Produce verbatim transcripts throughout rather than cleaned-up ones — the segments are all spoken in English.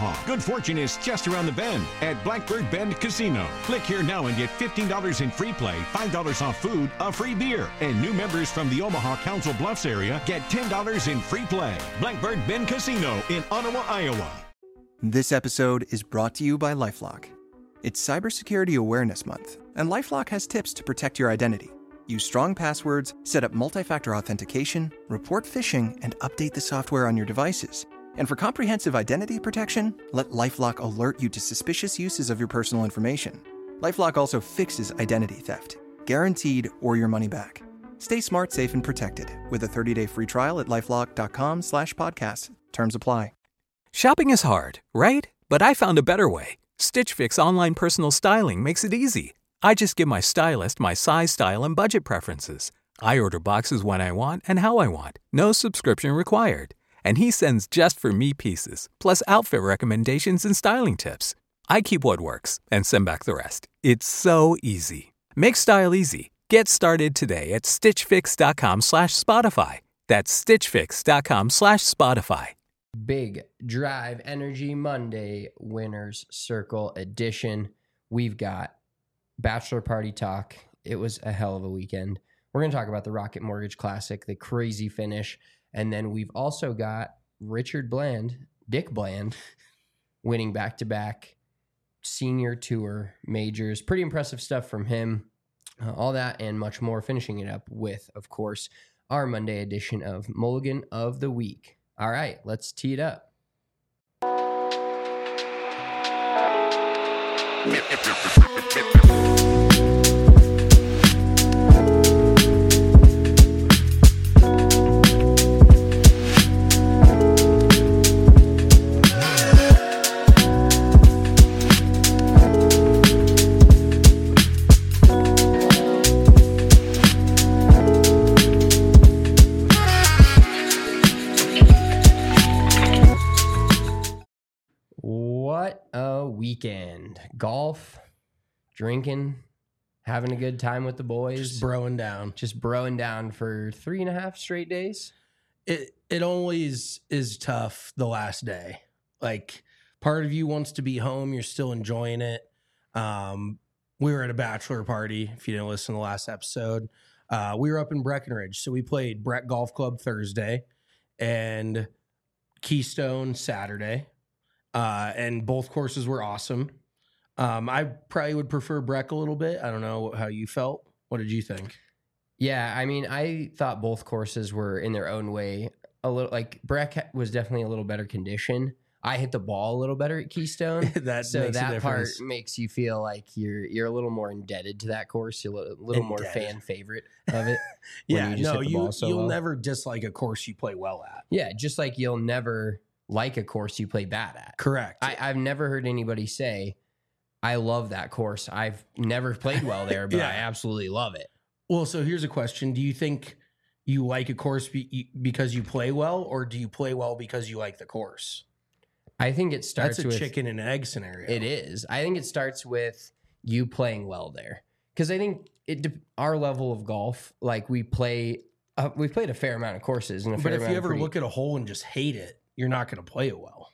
Omaha. Good fortune is just around the bend at Blackbird Bend Casino. Click here now and get fifteen dollars in free play, five dollars off food, a free beer. And new members from the Omaha Council Bluffs area get ten dollars in free play. Blackbird Bend Casino in Ottawa, Iowa. This episode is brought to you by LifeLock. It's Cybersecurity Awareness Month, and LifeLock has tips to protect your identity. Use strong passwords, set up multi-factor authentication, report phishing, and update the software on your devices. And for comprehensive identity protection, let LifeLock alert you to suspicious uses of your personal information. LifeLock also fixes identity theft, guaranteed or your money back. Stay smart, safe, and protected with a thirty-day free trial at LifeLock.com slash podcast. Terms apply. Shopping is hard, right? But I found a better way. Stitch Fix online personal styling makes it easy. I just give my stylist my size, style, and budget preferences. I order boxes when I want and how I want. No subscription required. And he sends just for me pieces, plus outfit recommendations and styling tips. I keep what works and send back the rest. It's so easy. Make style easy. Get started today at stitchfix.com slash Spotify. That's stitchfix.com slash Spotify. Big Drive Energy Monday Winners Circle edition. We've got Bachelor Party talk. It was a hell of a weekend. We're going to talk about the Rocket Mortgage Classic, the crazy finish. And then we've also got Richard Bland, Dick Bland, winning back-to-back senior tour majors. Pretty impressive stuff from him. Uh, all that and much more, finishing it up with, of course, our Monday edition of Mulligan of the Week. All right, let's tee it up. What a weekend. Golf, drinking, having a good time with the boys. Just broing down. Just broing down for three and a half straight days. It it always is tough the last day. Like, part of you wants to be home. You're still enjoying it. Um, we were at a bachelor party, if you didn't listen to the last episode. Uh, we were up in Breckenridge. So we played Breck Golf Club Thursday and Keystone Saturday. Uh, and both courses were awesome. Um, I probably would prefer Breck a little bit. I don't know how you felt. What did you think? Yeah, I mean, I thought both courses were in their own way a little. Like, Breck was definitely a little better condition. I hit the ball a little better at Keystone. that so makes that a part difference. makes you feel like you're you're a little more indebted to that course. You're a little more Indebted. fan favorite of it. Yeah, you just no, hit the you ball so you'll well. never dislike a course you play well at. Yeah, just like you'll never like a course you play bad at. Correct. I, I've never heard anybody say, I love that course. I've never played well there, but Yeah. I absolutely love it. Well, so here's a question. Do you think you like a course be, because you play well, or do you play well because you like the course? I think it starts That's a with chicken and egg scenario. It is. I think it starts with you playing well there. Because I think it de- our level of golf, like we play, uh, we've played a fair amount of courses. And a But fair if amount you of ever pretty- look at a hole and just hate it, you're not going to play it well.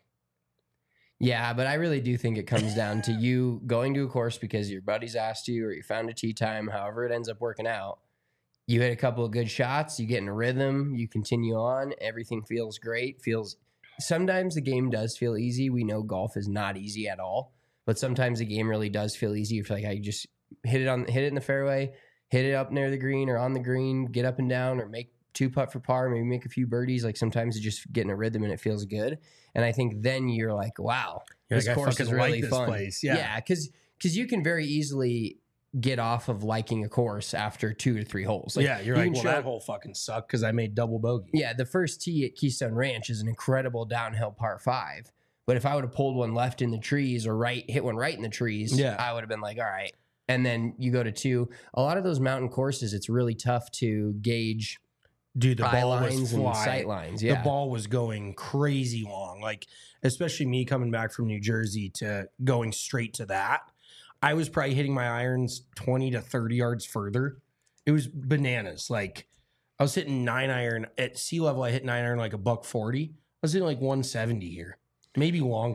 Yeah, but I really do think it comes down to you going to a course because your buddies asked you or you found a tee time, however it ends up working out. You hit a couple of good shots, you get in a rhythm, you continue on, everything feels great, feels sometimes the game does feel easy. We know golf is not easy at all, but sometimes the game really does feel easy. You feel like I just hit it on hit it in the fairway, hit it up near the green or on the green, get up and down or make two putt for par, maybe make a few birdies. Like sometimes you just get in a rhythm and it feels good. And I think then you're like, wow, You're this like, I course is fucking really like this fun. place. Yeah. Yeah, because because you can very easily get off of liking a course after two to three holes. Like, yeah, you're you like, can well, show- that hole fucking sucked because I made double bogey. yeah, the first tee at Keystone Ranch is an incredible downhill par five. But if I would have pulled one left in the trees or right, hit one right in the trees, Yeah. I would have been like, all right. And then you go to two. A lot of those mountain courses, it's really tough to gauge Dude, the eye ball was lines and flying. sight lines. Yeah. The ball was going crazy long. Like, especially me coming back from New Jersey to going straight to that. I was probably hitting my irons twenty to thirty yards further. It was bananas. Like, I was hitting nine iron at sea level. I hit nine iron like a buck forty. I was hitting like one seventy here, maybe longer.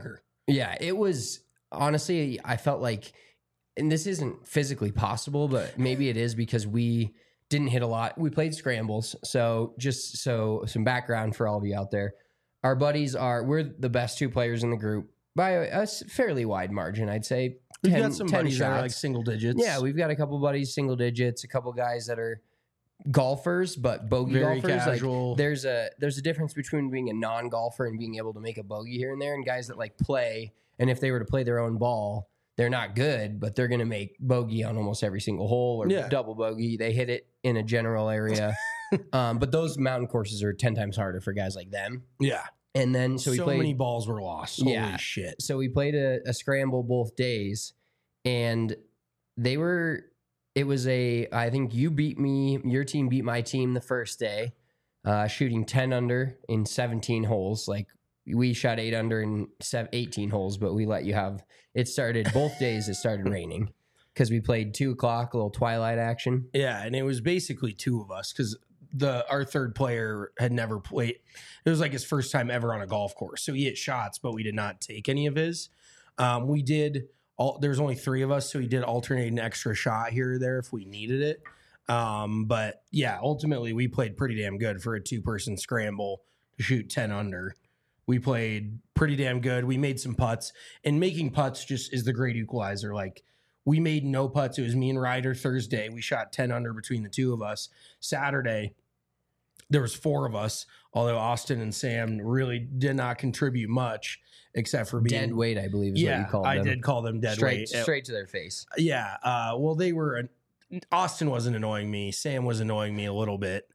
Yeah, it was honestly, I felt like, and this isn't physically possible, but maybe it is because we didn't hit a lot. We played scrambles. So just so some background for all of you out there, our buddies are, we're the best two players in the group by a, a fairly wide margin. I'd say We've ten, got some ten buddies that shots. are like single digits. Yeah, we've got a couple buddies, single digits, a couple guys that are golfers, but bogey Very golfers. casual. Like there's a there's a difference between being a non-golfer and being able to make a bogey here and there, and guys that like play, and if they were to play their own ball, they're not good, but they're gonna make bogey on almost every single hole or Yeah. double bogey. They hit it in a general area. um, but those mountain courses are ten times harder for guys like them. Yeah. And then so So, we played many balls were lost. Holy Yeah. shit. so we played a, a scramble both days, and they were it was a I think you beat me, your team beat my team the first day, uh shooting ten under in seventeen holes. Like we shot eight under in seven, eighteen holes, but we let you have it started both days. It started raining because we played two o'clock, a little twilight action. Yeah, and it was basically two of us because the our third player had never played. It was like his first time ever on a golf course, so he hit shots, but we did not take any of his. Um, we did all. There's only three of us, so we did alternate an extra shot here or there if we needed it. Um, but yeah, ultimately we played pretty damn good for a two person scramble to shoot ten under. We played pretty damn good. We made some putts, and making putts just is the great equalizer. Like. We made no putts. It was me and Ryder Thursday. We shot ten under between the two of us. Saturday, there was four of us, although Austin and Sam really did not contribute much except for being Dead weight, I believe is yeah, what you called I them. did call them dead straight, weight. straight to their face. Yeah. Uh, well, they were. Austin wasn't annoying me. Sam was annoying me a little bit,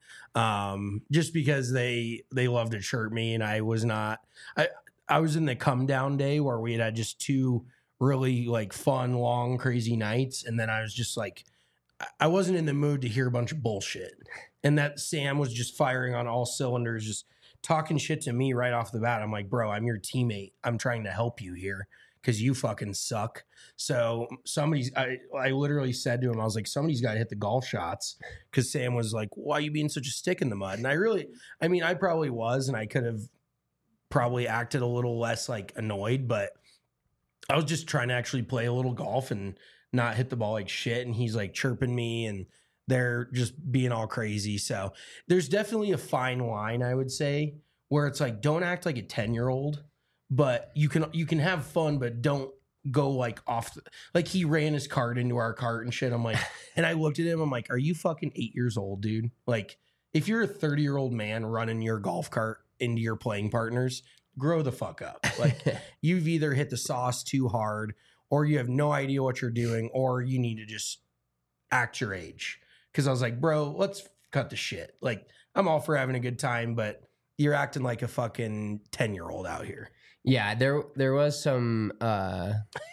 um, just because they they loved to chirp me, and I was not. I I was in the come down day where we had had just two really like fun, long, crazy nights, and then I was just like, I wasn't in the mood to hear a bunch of bullshit, and that Sam was just firing on all cylinders, just talking shit to me right off the bat. I'm like, bro, I'm your teammate. I'm trying to help you here because you fucking suck. So somebody's, I, I literally said to him, I was like, somebody's got to hit the golf shots, because Sam was like, why are you being such a stick in the mud? And I really, I mean, I probably was, and I could have probably acted a little less like annoyed, but I was just trying to actually play a little golf and not hit the ball like shit. And he's like chirping me, and they're just being all crazy. So there's definitely a fine line, I would say, where it's like, don't act like a ten year old, but you can, you can have fun, but don't go like off. The, like he ran his cart into our cart and shit. I'm like, and I looked at him, I'm like, are you fucking eight years old, dude? Like if you're a thirty year old man running your golf cart into your playing partners, grow the fuck up. Like you've either hit the sauce too hard, or you have no idea what you're doing, or you need to just act your age. Cause I was like, bro, let's cut the shit. Like I'm all for having a good time, but you're acting like a fucking ten year old out here. Yeah, there there was some uh,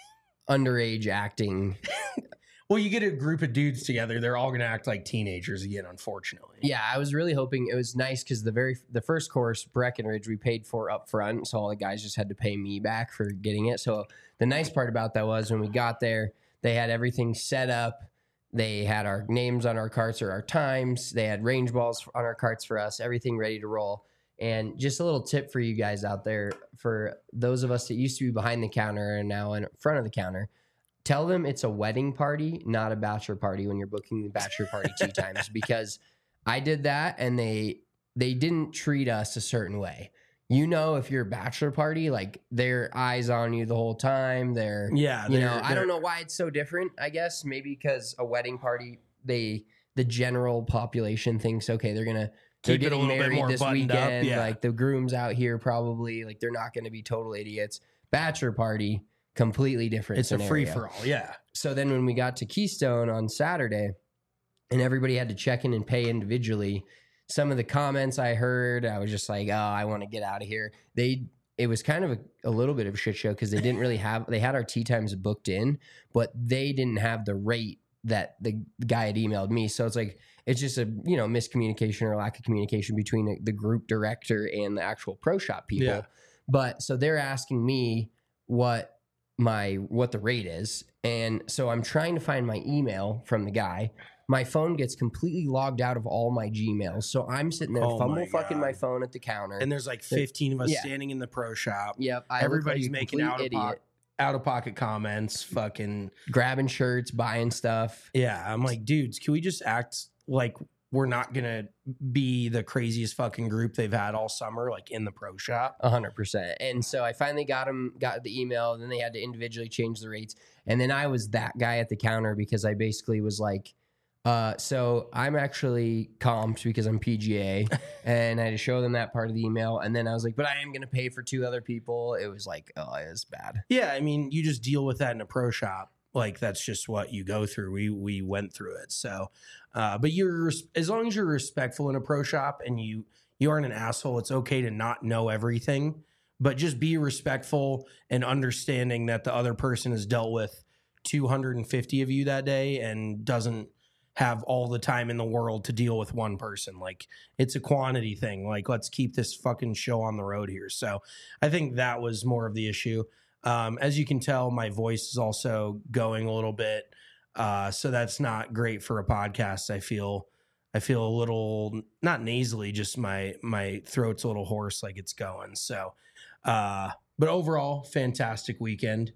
underage acting. Well, you get a group of dudes together, they're all going to act like teenagers again, unfortunately. Yeah, I was really hoping it was nice because the very the first course, Breckenridge, we paid for up front, so all the guys just had to pay me back for getting it. So the nice part about that was when we got there, they had everything set up. They had our names on our carts or our times. They had range balls on our carts for us, everything ready to roll. And just a little tip for you guys out there, for those of us that used to be behind the counter and now in front of the counter, tell them it's a wedding party, not a bachelor party when you're booking the bachelor party tea times, because I did that and they they didn't treat us a certain way. You know, if you're a bachelor party, like their eyes on you the whole time. They're Yeah. you they're- know, I they're- don't know why it's so different. I guess maybe because a wedding party, they the general population thinks, okay, they're gonna they're Keep it a getting little bit married more this buttoned up, weekend. yeah. Like the groom's out here probably, like they're not gonna be total idiots. Bachelor party, completely different. It's a scenario. free for all. Yeah. So then when we got to Keystone on Saturday and everybody had to check in and pay individually, some of the comments I heard, I was just like, oh, I want to get out of here. They, it was kind of a, a little bit of a shit show because they didn't really have, they had our tea times booked in, but they didn't have the rate that the guy had emailed me. So it's like, it's just a, you know, miscommunication or lack of communication between the, the group director and the actual pro shop people. Yeah. But so they're asking me what my, what the rate is. And so I'm trying to find my email from the guy, my phone gets completely logged out of all my Gmails. So I'm sitting there Oh fumble my fucking God. my phone at the counter. And there's like fifteen of us Yeah. standing in the pro shop. Yep. I Everybody's look like a making complete out of, idiot. pocket, out of pocket comments. Fucking. Grabbing shirts, buying stuff. Yeah. I'm like, dudes, can we just act like we're not going to be the craziest fucking group they've had all summer, like in the pro shop? A hundred percent. And so I finally got them, got the email, and then they had to individually change the rates. And then I was that guy at the counter because I basically was like, uh, so I'm actually comped because I'm P G A, and I had to show them that part of the email. And then I was like, but I am going to pay for two other people. It was like, oh, it was bad. Yeah. I mean, you just deal with that in a pro shop. Like that's just what you go through. We we went through it. So, uh, but you're as long as you're respectful in a pro shop and you you aren't an asshole, it's okay to not know everything, but just be respectful and understanding that the other person has dealt with two hundred fifty of you that day and doesn't have all the time in the world to deal with one person. Like it's a quantity thing. Like let's keep this fucking show on the road here. So I think that was more of the issue. Um, as you can tell, my voice is also going a little bit. Uh, so that's not great for a podcast. I feel, I feel a little, not nasally, just my, my throat's a little hoarse, like it's going. So, uh, but overall, fantastic weekend.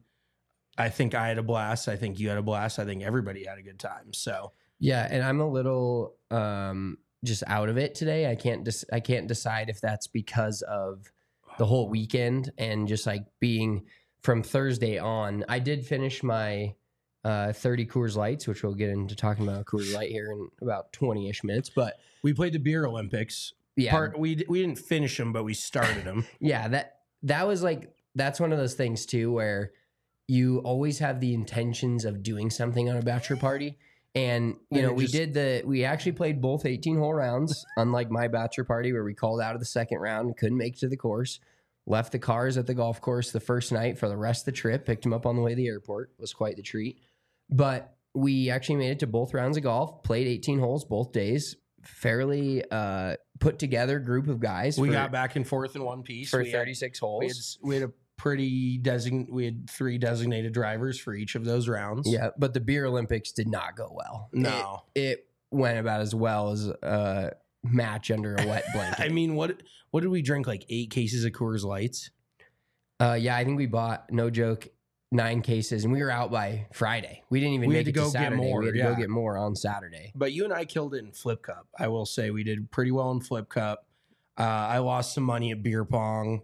I think I had a blast. I think you had a blast. I think everybody had a good time. So Yeah. And I'm a little, um, just out of it today. I can't dis- I can't decide if that's because of the whole weekend and just like being from Thursday on. I did finish my uh, thirty Coors Lights, which we'll get into talking about Coors Light here in about twenty-ish minutes. But we played the Beer Olympics. yeah, Part, we we didn't finish them, but we started them. yeah, that that was like, that's one of those things too, where you always have the intentions of doing something on a bachelor party. And, you And know, it we just- did the, we actually played both eighteen hole rounds, unlike my bachelor party where we called out of the second round and couldn't make it to the course. Left the cars at the golf course the first night for the rest of the trip, picked them up on the way to the airport. It was quite the treat. But we actually made it to both rounds of golf, played eighteen holes both days. Fairly uh, put together group of guys. We for, got back and forth in one piece. for We had- thirty-six We had, holes. we had a pretty design. We had three designated drivers for each of those rounds. Yeah, but the Beer Olympics did not go well. No. It, it went about as well as a match under a wet blanket. I mean, what what did we drink? Like eight cases of Coors Lights. Uh, yeah, I think we bought, no joke, nine cases, and we were out by Friday. We didn't even We make had to it go to get Saturday. more, We had to yeah. go get more on Saturday. But you and I killed it in Flip Cup. I will say we did pretty well in Flip Cup. Uh, I lost some money at beer pong.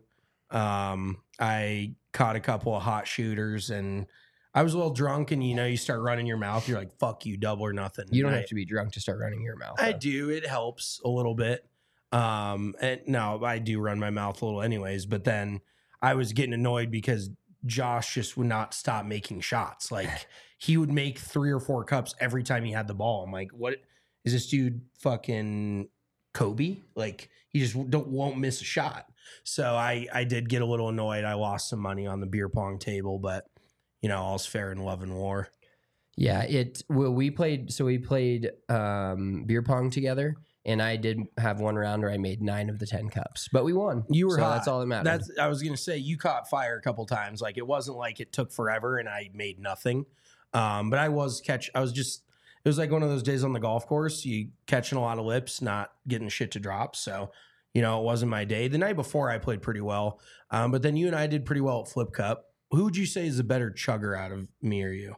Um, I caught a couple of hot shooters, and I was a little drunk. And you know, you start running your mouth. You're like, "Fuck you, double or nothing." You don't And I- have to be drunk to start running your mouth. I though. do. It helps a little bit. Um, and no, I do run my mouth a little anyways, but then I was getting annoyed because Josh just would not stop making shots. Like he would make three or four cups every time he had the ball. I'm like, what is this dude fucking Kobe? Like he just don't won't miss a shot. So I I did get a little annoyed. I lost some money on the beer pong table, but you know, all's fair in love and war. Yeah, it. Well, we played. So we played um, beer pong together, and I did have one round where I made nine of the ten cups, but we won. You were so hot. that's all that matters. That's I was gonna say you caught fire a couple times. Like it wasn't like it took forever and I made nothing. Um, but I was catch. I was just. It was like one of those days on the golf course. You catching a lot of lips, not getting shit to drop. So you know it wasn't my day. The night before I played pretty well, um, but then you and I did pretty well at Flip Cup. Who would you say is the better chugger out of me or you?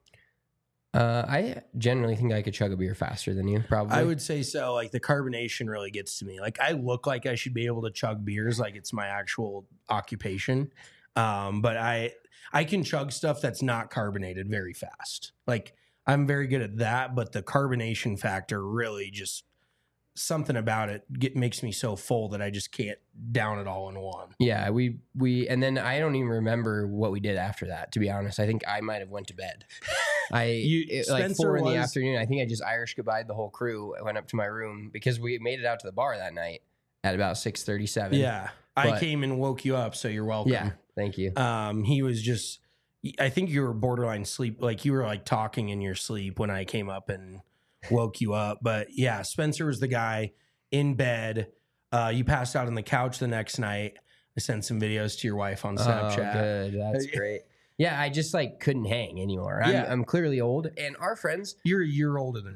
Uh, I generally think I could chug a beer faster than you. Probably. I would say so. Like the carbonation really gets to me. Like I look like I should be able to chug beers, like it's my actual occupation. Um, but I I can chug stuff that's not carbonated very fast. Like I'm very good at that, but the carbonation factor really just something about it get, makes me so full that I just can't down it all in one. Yeah, we we and then I don't even remember what we did after that. To be honest, I think I might have went to bed. I You- it, like Spencer four in the was- afternoon. I think I just Irish goodbye the whole crew. I went up to my room because we made it out to the bar that night at about six thirty seven. Yeah, I But- came and woke you up, so you're welcome. yeah. Thank you. Um, he was just, I think you were borderline sleep. Like you were like talking in your sleep when I came up and woke you up. But yeah, Spencer was the guy in bed. Uh, you passed out on the couch the next night. I sent some videos to your wife on Snapchat. Oh, good. That's great. Yeah, I just like couldn't hang anymore. I'm, Yeah. I'm clearly old, and our friends. You're a year older than me.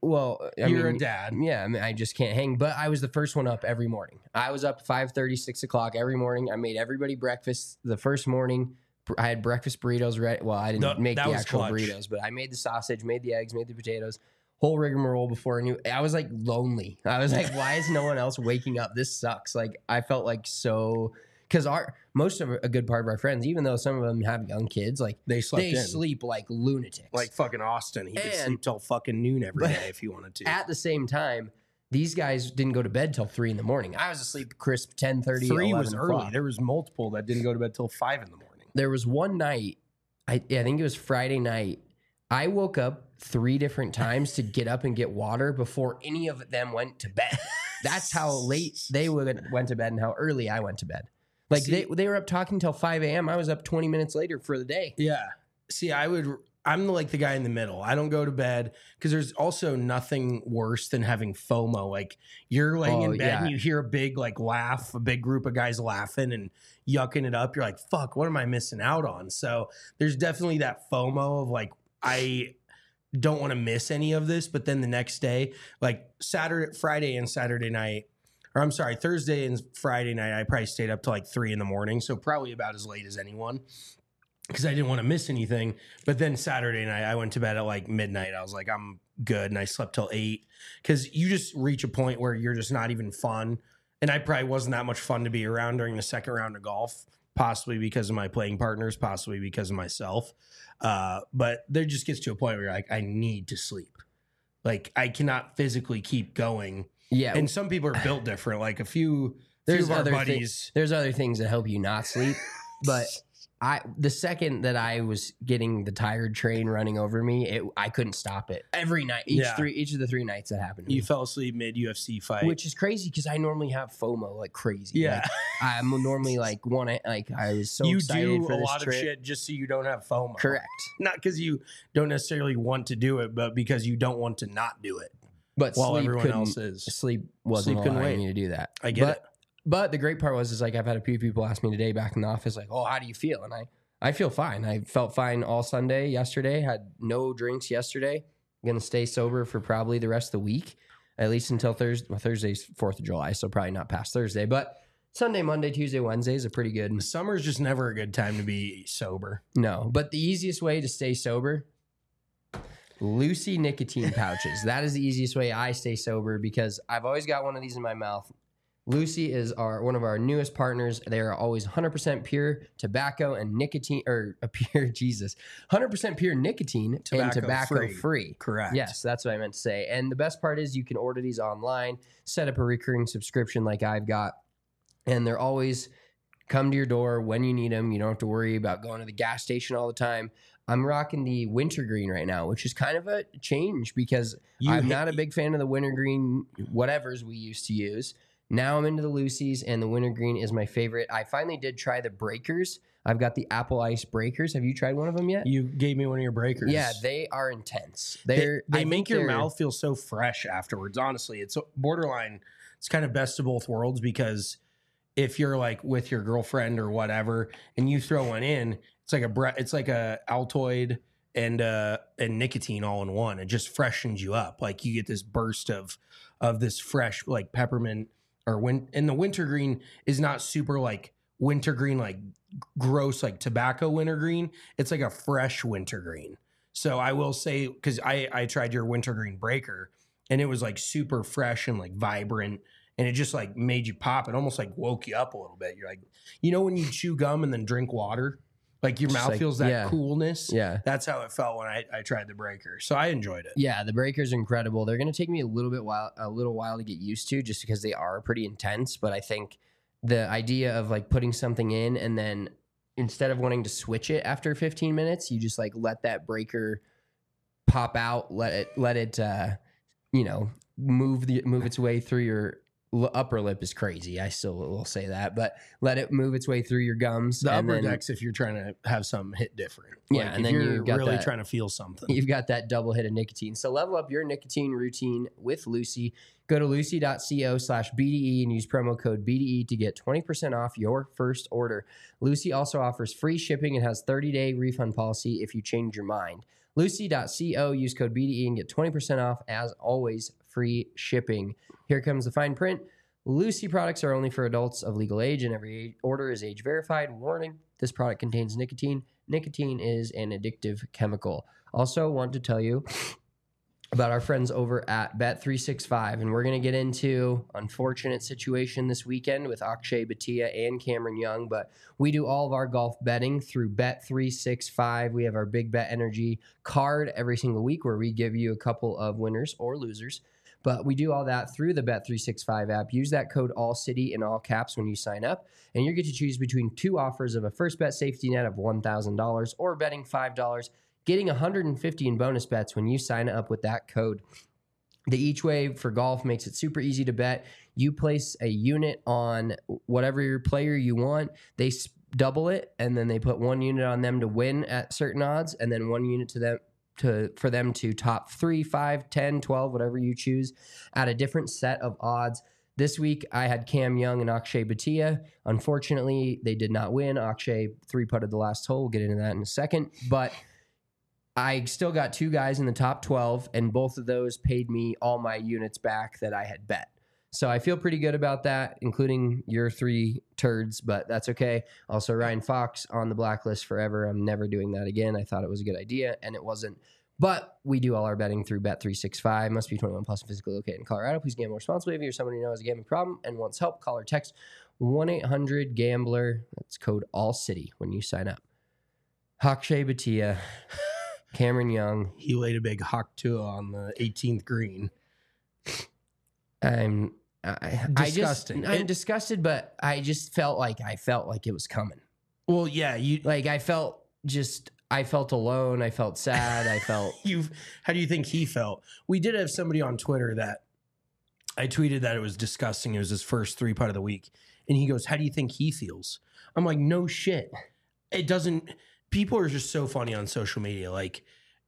Well, I You're mean, a dad. Yeah, I mean, I just can't hang. But I was the first one up every morning. I was up five thirty, six o'clock every morning. I made everybody breakfast the first morning. I had breakfast burritos ready. Well, I didn't No, make that the was actual clutch. burritos, but I made the sausage, made the eggs, made the potatoes, whole rigmarole before I knew. I was like lonely. I was like, why is no one else waking up? This sucks. Like I felt like so because our most of a good part of our friends, even though some of them have young kids, like They slept they in. sleep like lunatics. Like fucking Austin. He could And- sleep till fucking noon every But- day if he wanted to. At the same time, these guys didn't go to bed till three in the morning. I was asleep crisp ten thirty. Three was o'clock. early. There was multiple that didn't go to bed till five in the morning. There was one night, I, yeah, I think it was Friday night. I woke up three different times to get up and get water before any of them went to bed. That's how late they went went to bed and how early I went to bed. Like See- they they were up talking till five a.m. I was up twenty minutes later for the day. Yeah. See, I would. I'm like the guy in the middle. I don't go to bed because there's also nothing worse than having FOMO. Like you're laying Oh, in bed yeah. and you hear a big like laugh, a big group of guys laughing and yucking it up. You're like, fuck, what am I missing out on? So there's definitely that FOMO of like, I don't want to miss any of this. But then the next day, like Saturday, Friday and Saturday night, or I'm sorry, Thursday and Friday night, I probably stayed up till like three in the morning. So probably about as late as anyone because I didn't want to miss anything. But then Saturday night, I went to bed at like midnight. I was like, I'm good. And I slept till eight because you just reach a point where you're just not even fun. And I probably wasn't that much fun to be around during the second round of golf, possibly because of my playing partners, possibly because of myself. Uh, but there just gets to a point where you're like, I need to sleep. Like I cannot physically keep going. Yeah, And some people are built different. Like a few, there's few of our other buddies. thi- there's other things that help you not sleep, but I the second that I was getting the tired train running over me, it, I couldn't stop it every night. Each Yeah. three each of the three nights that happened to You me. fell asleep mid U F C fight. Which is crazy because I normally have FOMO like crazy. Yeah. Like, I'm normally like want to like I was so you excited do for a this lot trip. of shit just so you don't have FOMO. Correct. Not because you don't necessarily want to do it, but because you don't want to not do it. But While sleep everyone couldn't, else is. sleep wasn't Sleep couldn't allowing wait. me to do that. I get but, it. But the great part was is like I've had a few people ask me today back in the office like, "Oh, how do you feel?" And I I feel fine. I felt fine all Sunday yesterday. Had no drinks yesterday. I'm gonna stay sober for probably the rest of the week, at least until Thursday. Well, Thursday's Fourth of July, so probably not past Thursday. But Sunday, Monday, Tuesday, Wednesday is a pretty good. Summer's just never a good time to be sober. No, but the easiest way to stay sober, Lucy nicotine pouches. That is the easiest way I stay sober because I've always got one of these in my mouth. Lucy is our one of our newest partners. They are always one hundred percent pure tobacco and nicotine, or a pure Jesus, one hundred percent pure nicotine Tobacco and tobacco free. free. Correct. Yes, that's what I meant to say. And the best part is you can order these online, set up a recurring subscription like I've got, and they're always come to your door when you need them. You don't have to worry about going to the gas station all the time. I'm rocking the wintergreen right now, which is kind of a change because You I'm hit- not a big fan of the wintergreen whatevers we used to use. Now I'm into the Lucy's, and the wintergreen is my favorite. I finally did try the breakers. I've got the apple ice breakers. Have you tried one of them yet? You gave me one of your breakers. Yeah, they are intense. They, They're they I make think your they're- mouth feel so fresh afterwards. Honestly, it's borderline. It's kind of best of both worlds because if you're like with your girlfriend or whatever, and you throw one in, it's like a bre- it's like a Altoid and uh and nicotine all in one. It just freshens you up. Like you get this burst of of this fresh like peppermint or win. And the wintergreen is not super like wintergreen like gross like tobacco wintergreen. It's like a fresh wintergreen. So I will say, because I, I tried your wintergreen breaker and it was like super fresh and like vibrant and it just like made you pop. It almost like woke you up a little bit. You're like, you know, when you chew gum and then drink water, like your Just mouth like- feels that yeah. coolness. Yeah. That's how it felt when I, I tried the breaker. So I enjoyed it. Yeah, the breakers are incredible. They're going to take me a little bit while a little while to get used to just because they are pretty intense, but I think the idea of like putting something in and then instead of wanting to switch it after fifteen minutes, you just like let that breaker pop out, let it let it uh you know, move the move its way through your l- upper lip is crazy. I still will say that, but let it move its way through your gums. The and upper then, deck's if you're trying to have something hit different. Yeah, Like, and if then you're you've got really that- trying to feel something. You've got that double hit of nicotine. So level up your nicotine routine with Lucy. Go to lucy.co slash BDE and use promo code B D E to get twenty percent off your first order. Lucy also offers free shipping and has thirty-day refund policy if you change your mind. Lucy.co, use code B D E and get twenty percent off. As always, free shipping. Here comes the fine print. Lucy products are only for adults of legal age, and every order is age verified. Warning, this product contains nicotine. Nicotine is an addictive chemical. Also want to tell you about our friends over at Bet three sixty-five, and we're going to get into unfortunate situation this weekend with Akshay Bhatia and Cameron Young, but we do all of our golf betting through Bet three sixty-five. We have our Big Bet Energy card every single week where we give you a couple of winners or losers, but we do all that through the Bet three sixty-five app. Use that code ALLCITY in all caps when you sign up, and you get to choose between two offers of a first bet safety net of one thousand dollars or betting five dollars, getting one hundred fifty in bonus bets when you sign up with that code. The Each Way for golf makes it super easy to bet. You place a unit on whatever your player you want. They s- double it, and then they put one unit on them to win at certain odds, and then one unit to them to for them to top three, five, ten, twelve, whatever you choose, at a different set of odds. This week, I had Cam Young and Akshay Bhatia. Unfortunately, they did not win. Akshay three-putted the last hole. We'll get into that in a second, but I still got two guys in the top twelve, and both of those paid me all my units back that I had bet. So I feel pretty good about that, including your three turds, but that's okay. Also, Ryan Fox on the blacklist forever. I'm never doing that again. I thought it was a good idea, and it wasn't. But we do all our betting through Bet three sixty-five. Must be twenty-one plus and physically located in Colorado. Please gamble responsibly. If you're someone you know has a gambling problem and wants help, call or text one eight hundred gambler. That's code ALLCITY when you sign up. Akshay Bhatia, Cameron Young. He laid a big hawk to on the eighteenth green. I'm I, Disgusting. I just, I'm It- disgusted, but I just felt like I felt like it was coming. Well, yeah, you Like I felt just I felt alone. I felt sad. I felt you how do you think he felt? We did have somebody on Twitter that I tweeted that it was disgusting. It was his first three putt of the week. And he goes, how do you think he feels? I'm like, no shit. It doesn't people are just so funny on social media. Like,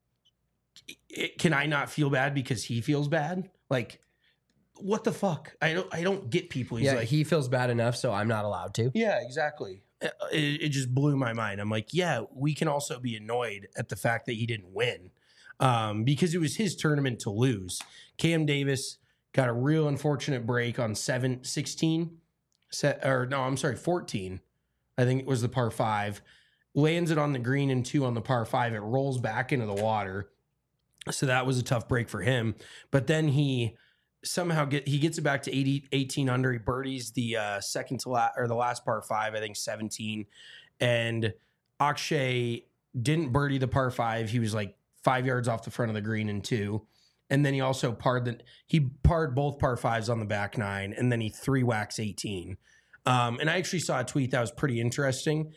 it, can I not feel bad because he feels bad? Like, what the fuck? I don't I don't get people. He's yeah. like, He feels bad enough, so I'm not allowed to. yeah, exactly. It, it just blew my mind. I'm like, yeah, we can also be annoyed at the fact that he didn't win um, because it was his tournament to lose. Cam Davis got a real unfortunate break on seven, sixteen, set, or no, I'm sorry, fourteen. I think it was the par five. Lands it on the green and two on the par five. It rolls back into the water. So that was a tough break for him. But then he somehow get he gets it back to eighty, eighteen under. He birdies the uh, second to last or the last par five, I think seventeen. And Akshay didn't birdie the par five. He was like five yards off the front of the green in two. And then he also parred the he parred both par fives on the back nine, and then he three whacks eighteen. Um, and I actually saw a tweet that was pretty interesting.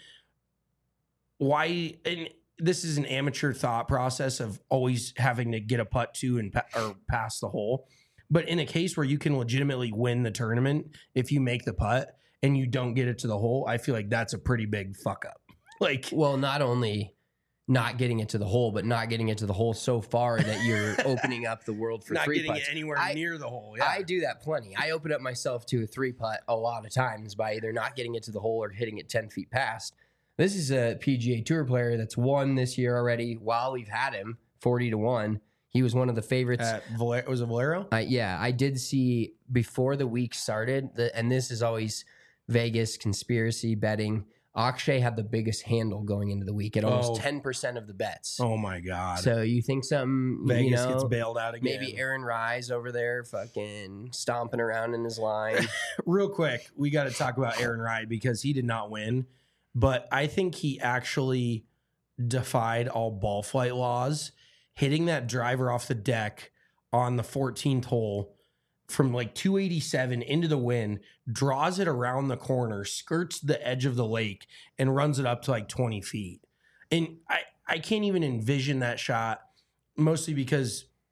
Why and this is an amateur thought process of always having to get a putt to and pa- or pass the hole. But in a case where you can legitimately win the tournament if you make the putt and you don't get it to the hole, I feel like that's a pretty big fuck up. Like, Well, not only not getting it to the hole, but not getting it to the hole so far that you're opening up the world for not three getting putts. it anywhere I- near the hole. Yeah. I do that plenty. I open up myself to a three putt a lot of times by either not getting it to the hole or hitting it ten feet past. This is a P G A Tour player that's won this year already while we've had him forty to one. He was one of the favorites. At Valer- was it Valero? Uh, yeah, I did see before the week started, the, and this is always Vegas conspiracy betting. Akshay had the biggest handle going into the week at almost Oh. ten percent of the bets. Oh my God. So you think something, Vegas you know, gets bailed out again. maybe Aaron Rise over there fucking stomping around in his line. Real quick, we got to talk about Aaron Rai because he did not win, but I think he actually defied all ball flight laws, hitting that driver off the deck on the fourteenth hole from like two eighty-seven into the wind, draws it around the corner, skirts the edge of the lake, and runs it up to like twenty feet. And I, I can't even envision that shot, mostly because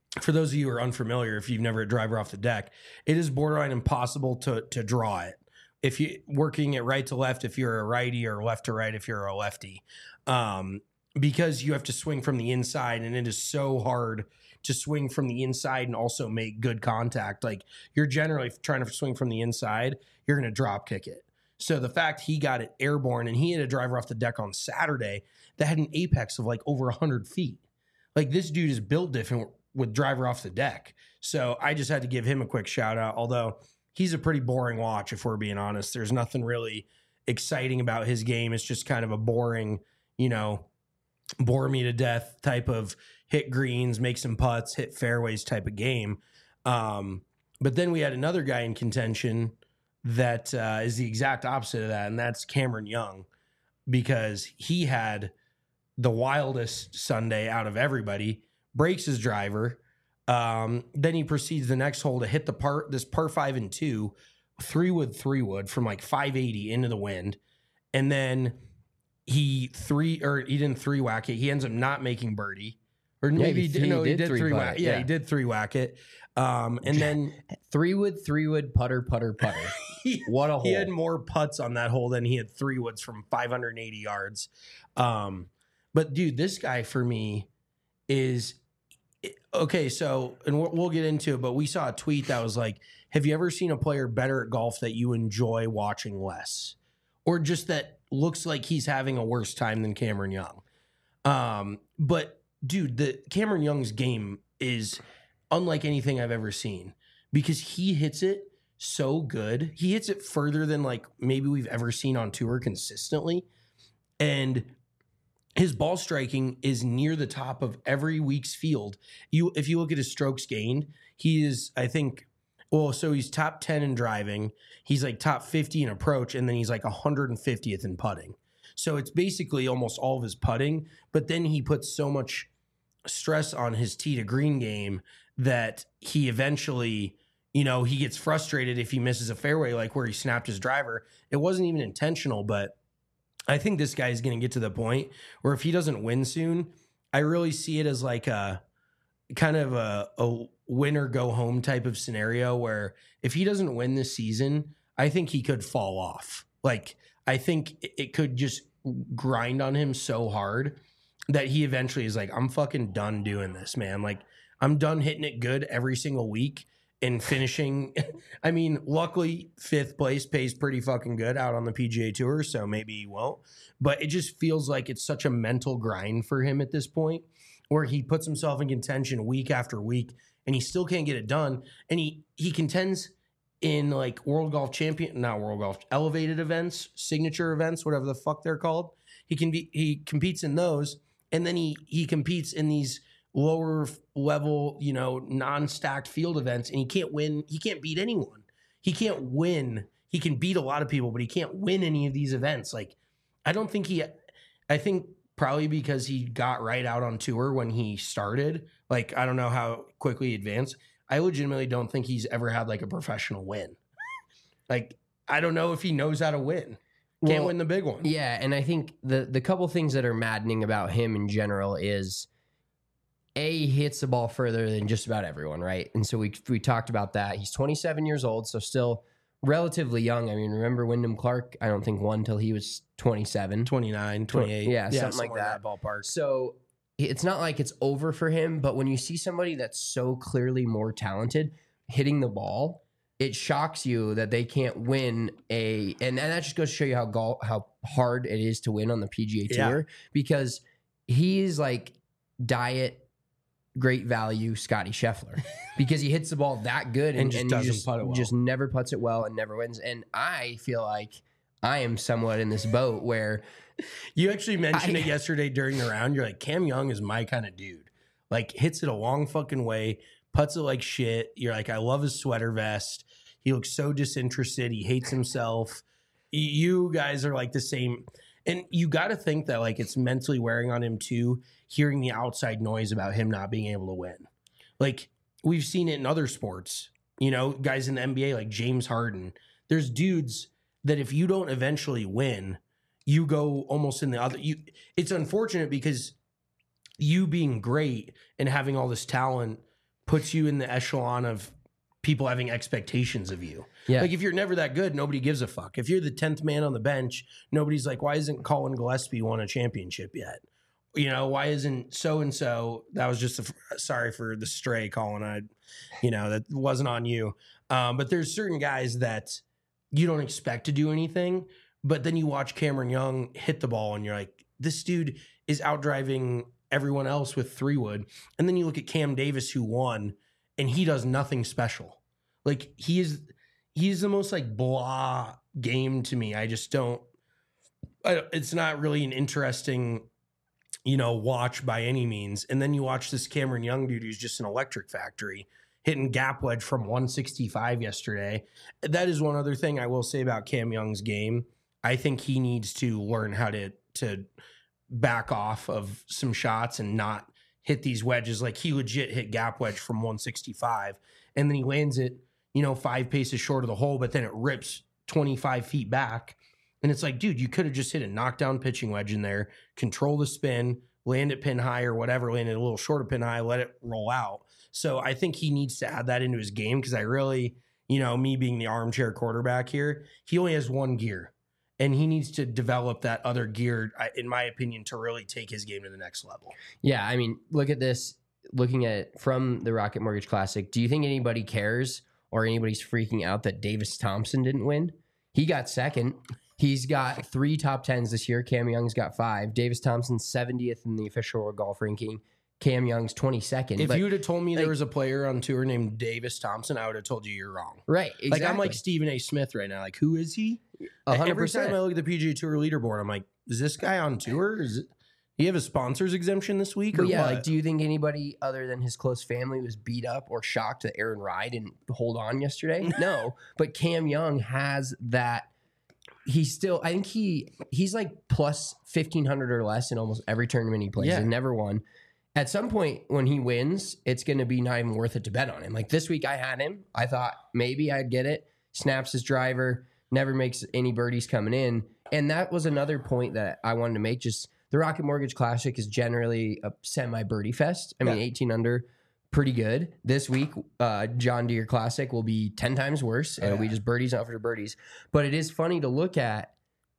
for those of you who are unfamiliar, if you've never had a driver off the deck, it is borderline impossible to to draw it. If you working it right to left, if you're a righty, or left to right, if you're a lefty, um, because you have to swing from the inside, and it is so hard to swing from the inside and also make good contact. Like, you're generally trying to swing from the inside, you're going to drop kick it. So the fact he got it airborne, and he had a driver off the deck on Saturday that had an apex of like over one hundred feet. Like, this dude is built different with driver off the deck. So I just had to give him a quick shout out, although he's a pretty boring watch, if we're being honest. There's nothing really exciting about his game. It's just kind of a boring, you know, bore me to death type of hit greens, make some putts, hit fairways type of game. Um, but then we had another guy in contention that uh, is the exact opposite of that, and that's Cameron Young, because he had the wildest Sunday out of everybody, breaks his driver. Um, then he proceeds the next hole to hit the par, this par five and two, three wood, three wood from like five eighty into the wind. And then he three, or he didn't three whack it. He ends up not making birdie. Or maybe he he did, th- no, he he did did three three putt whack. it, Yeah, yeah. he did three whack it. Um, and then Three wood, three wood, putter, putter, putter. he, What a hole. he had more putts on that hole than he had three woods from five hundred eighty yards. Um, but dude, this guy for me is okay. So, and we'll, we'll get into it, but we saw a tweet that was like, have you ever seen a player better at golf that you enjoy watching less, or just that looks like he's having a worse time than Cameron Young? Um, but dude, the Cameron Young's game is unlike anything I've ever seen, because he hits it so good. He hits it further than like maybe we've ever seen on tour consistently. And his ball striking is near the top of every week's field. You, if you look at his strokes gained, he is, I think, well, so he's top ten in driving. He's like top fifty in approach, and then he's like one hundred fiftieth in putting. So it's basically almost all of his putting, but then he puts so much stress on his tee to green game that he eventually, you know, he gets frustrated if he misses a fairway, like where he snapped his driver. It wasn't even intentional, but I think this guy is going to get to the point where if he doesn't win soon, I really see it as like a kind of a, a win or go home type of scenario where if he doesn't win this season, I think he could fall off. Like, I think it could just grind on him so hard that he eventually is like, I'm fucking done doing this, man. Like, I'm done hitting it good every single week and finishing. I mean, luckily, fifth place pays pretty fucking good out on the P G A Tour, so maybe he won't. But it just feels like it's such a mental grind for him at this point, where he puts himself in contention week after week, and he still can't get it done. And he he contends in like World Golf Champion, not World Golf, elevated events, signature events, whatever the fuck they're called. He can be he competes in those, and then he he competes in these lower level, you know, non-stacked field events, and he can't win. He can't beat anyone. He can't win. He can beat a lot of people, but he can't win any of these events. Like, I don't think he, I think probably because he got right out on tour when he started. Like, I don't know how quickly he advanced. I legitimately don't think he's ever had like a professional win. Like, I don't know if he knows how to win. Can't Well, win the big one. Yeah, and I think the the couple things that are maddening about him in general is, A, he hits the ball further than just about everyone, right? And so we we talked about that. He's twenty-seven years old, so still relatively young. I mean, remember Wyndham Clark, I don't think won until he was twenty-seven. twenty-nine, twenty-eight. Yeah, something like somewhere in that. ballpark. So it's not like it's over for him, but when you see somebody that's so clearly more talented hitting the ball, it shocks you that they can't win a, and that just goes to show you how golf, how hard it is to win on the P G A Tour, Yeah. because he's like diet great value Scotty Scheffler, because he hits the ball that good and, And just and doesn't you just, putt it well. just never puts it well and never wins. And I feel like I am somewhat in this boat where You actually mentioned I- it yesterday during the round. You're like, Cam Young is my kind of dude. Like, hits it a long fucking way, puts it like shit. You're like, I love his sweater vest. He looks so disinterested. He hates himself. Y- You guys are like the same. And you got to think that like it's mentally wearing on him too, hearing the outside noise about him not being able to win. Like, we've seen it in other sports, you know, guys in the N B A like James Harden. There's dudes that if you don't eventually win, you go almost in the other. You, it's unfortunate because you being great and having all this talent puts you in the echelon of people having expectations of you. Yeah. Like if you're never that good, nobody gives a fuck. If you're the tenth man on the bench, nobody's like, why isn't Colin Gillespie won a championship yet? You know, why isn't so-and-so, that was just, a, sorry for the stray, Colin, I, you know, that wasn't on you. Um, but there's certain guys that you don't expect to do anything, but then you watch Cameron Young hit the ball and you're like, this dude is outdriving everyone else with three wood. And then you look at Cam Davis who won and he does nothing special. Like he is, he's the most like blah game to me. I just don't, I, it's not really an interesting, you know, watch by any means. And then you watch this Cameron Young dude who's just an electric factory hitting gap wedge from one sixty-five yesterday. That is one other thing I will say about Cam Young's game. I think he needs to learn how to, to back off of some shots and not hit these wedges. Like he legit hit gap wedge from one sixty-five and then he lands it, you know, five paces short of the hole, but then it rips twenty-five feet back. And it's like, dude, you could have just hit a knockdown pitching wedge in there, control the spin, land it pin high or whatever, land it a little short of pin high, let it roll out. So I think he needs to add that into his game because I really, you know, me being the armchair quarterback here, he only has one gear. And he needs to develop that other gear, in my opinion, to really take his game to the next level. Yeah, I mean, look at this. Looking at it from the Rocket Mortgage Classic, do you think anybody cares or anybody's freaking out that Davis Thompson didn't win? He got second. He's got three top tens this year. Cam Young's got five. Davis Thompson's seventieth in the official World Golf ranking. Cam Young's twenty-second. If but, you would have told me like, there was a player on tour named Davis Thompson, I would have told you you're wrong. Right, exactly. Like I'm like Stephen A. Smith right now. Like, who is he? one hundred percent. Every time I look at the P G A Tour leaderboard, I'm like, is this guy on tour? Is it, do you have a sponsors exemption this week? Or But yeah, what? like, do you think anybody other than his close family was beat up or shocked that Aaron Rye didn't hold on yesterday? No, but Cam Young has that. He's still, I think he he's like plus fifteen hundred or less in almost every tournament he plays Yeah. and never won. At some point when he wins, it's going to be not even worth it to bet on him. Like this week I had him. I thought maybe I'd get it. Snaps his driver, never makes any birdies coming in. And that was another point that I wanted to make. Just the Rocket Mortgage Classic is generally a semi-birdie fest. I mean, Yeah. eighteen under, pretty good. This week, uh, John Deere Classic will be ten times worse. Oh, It'll yeah. be just birdies after birdies. But it is funny to look at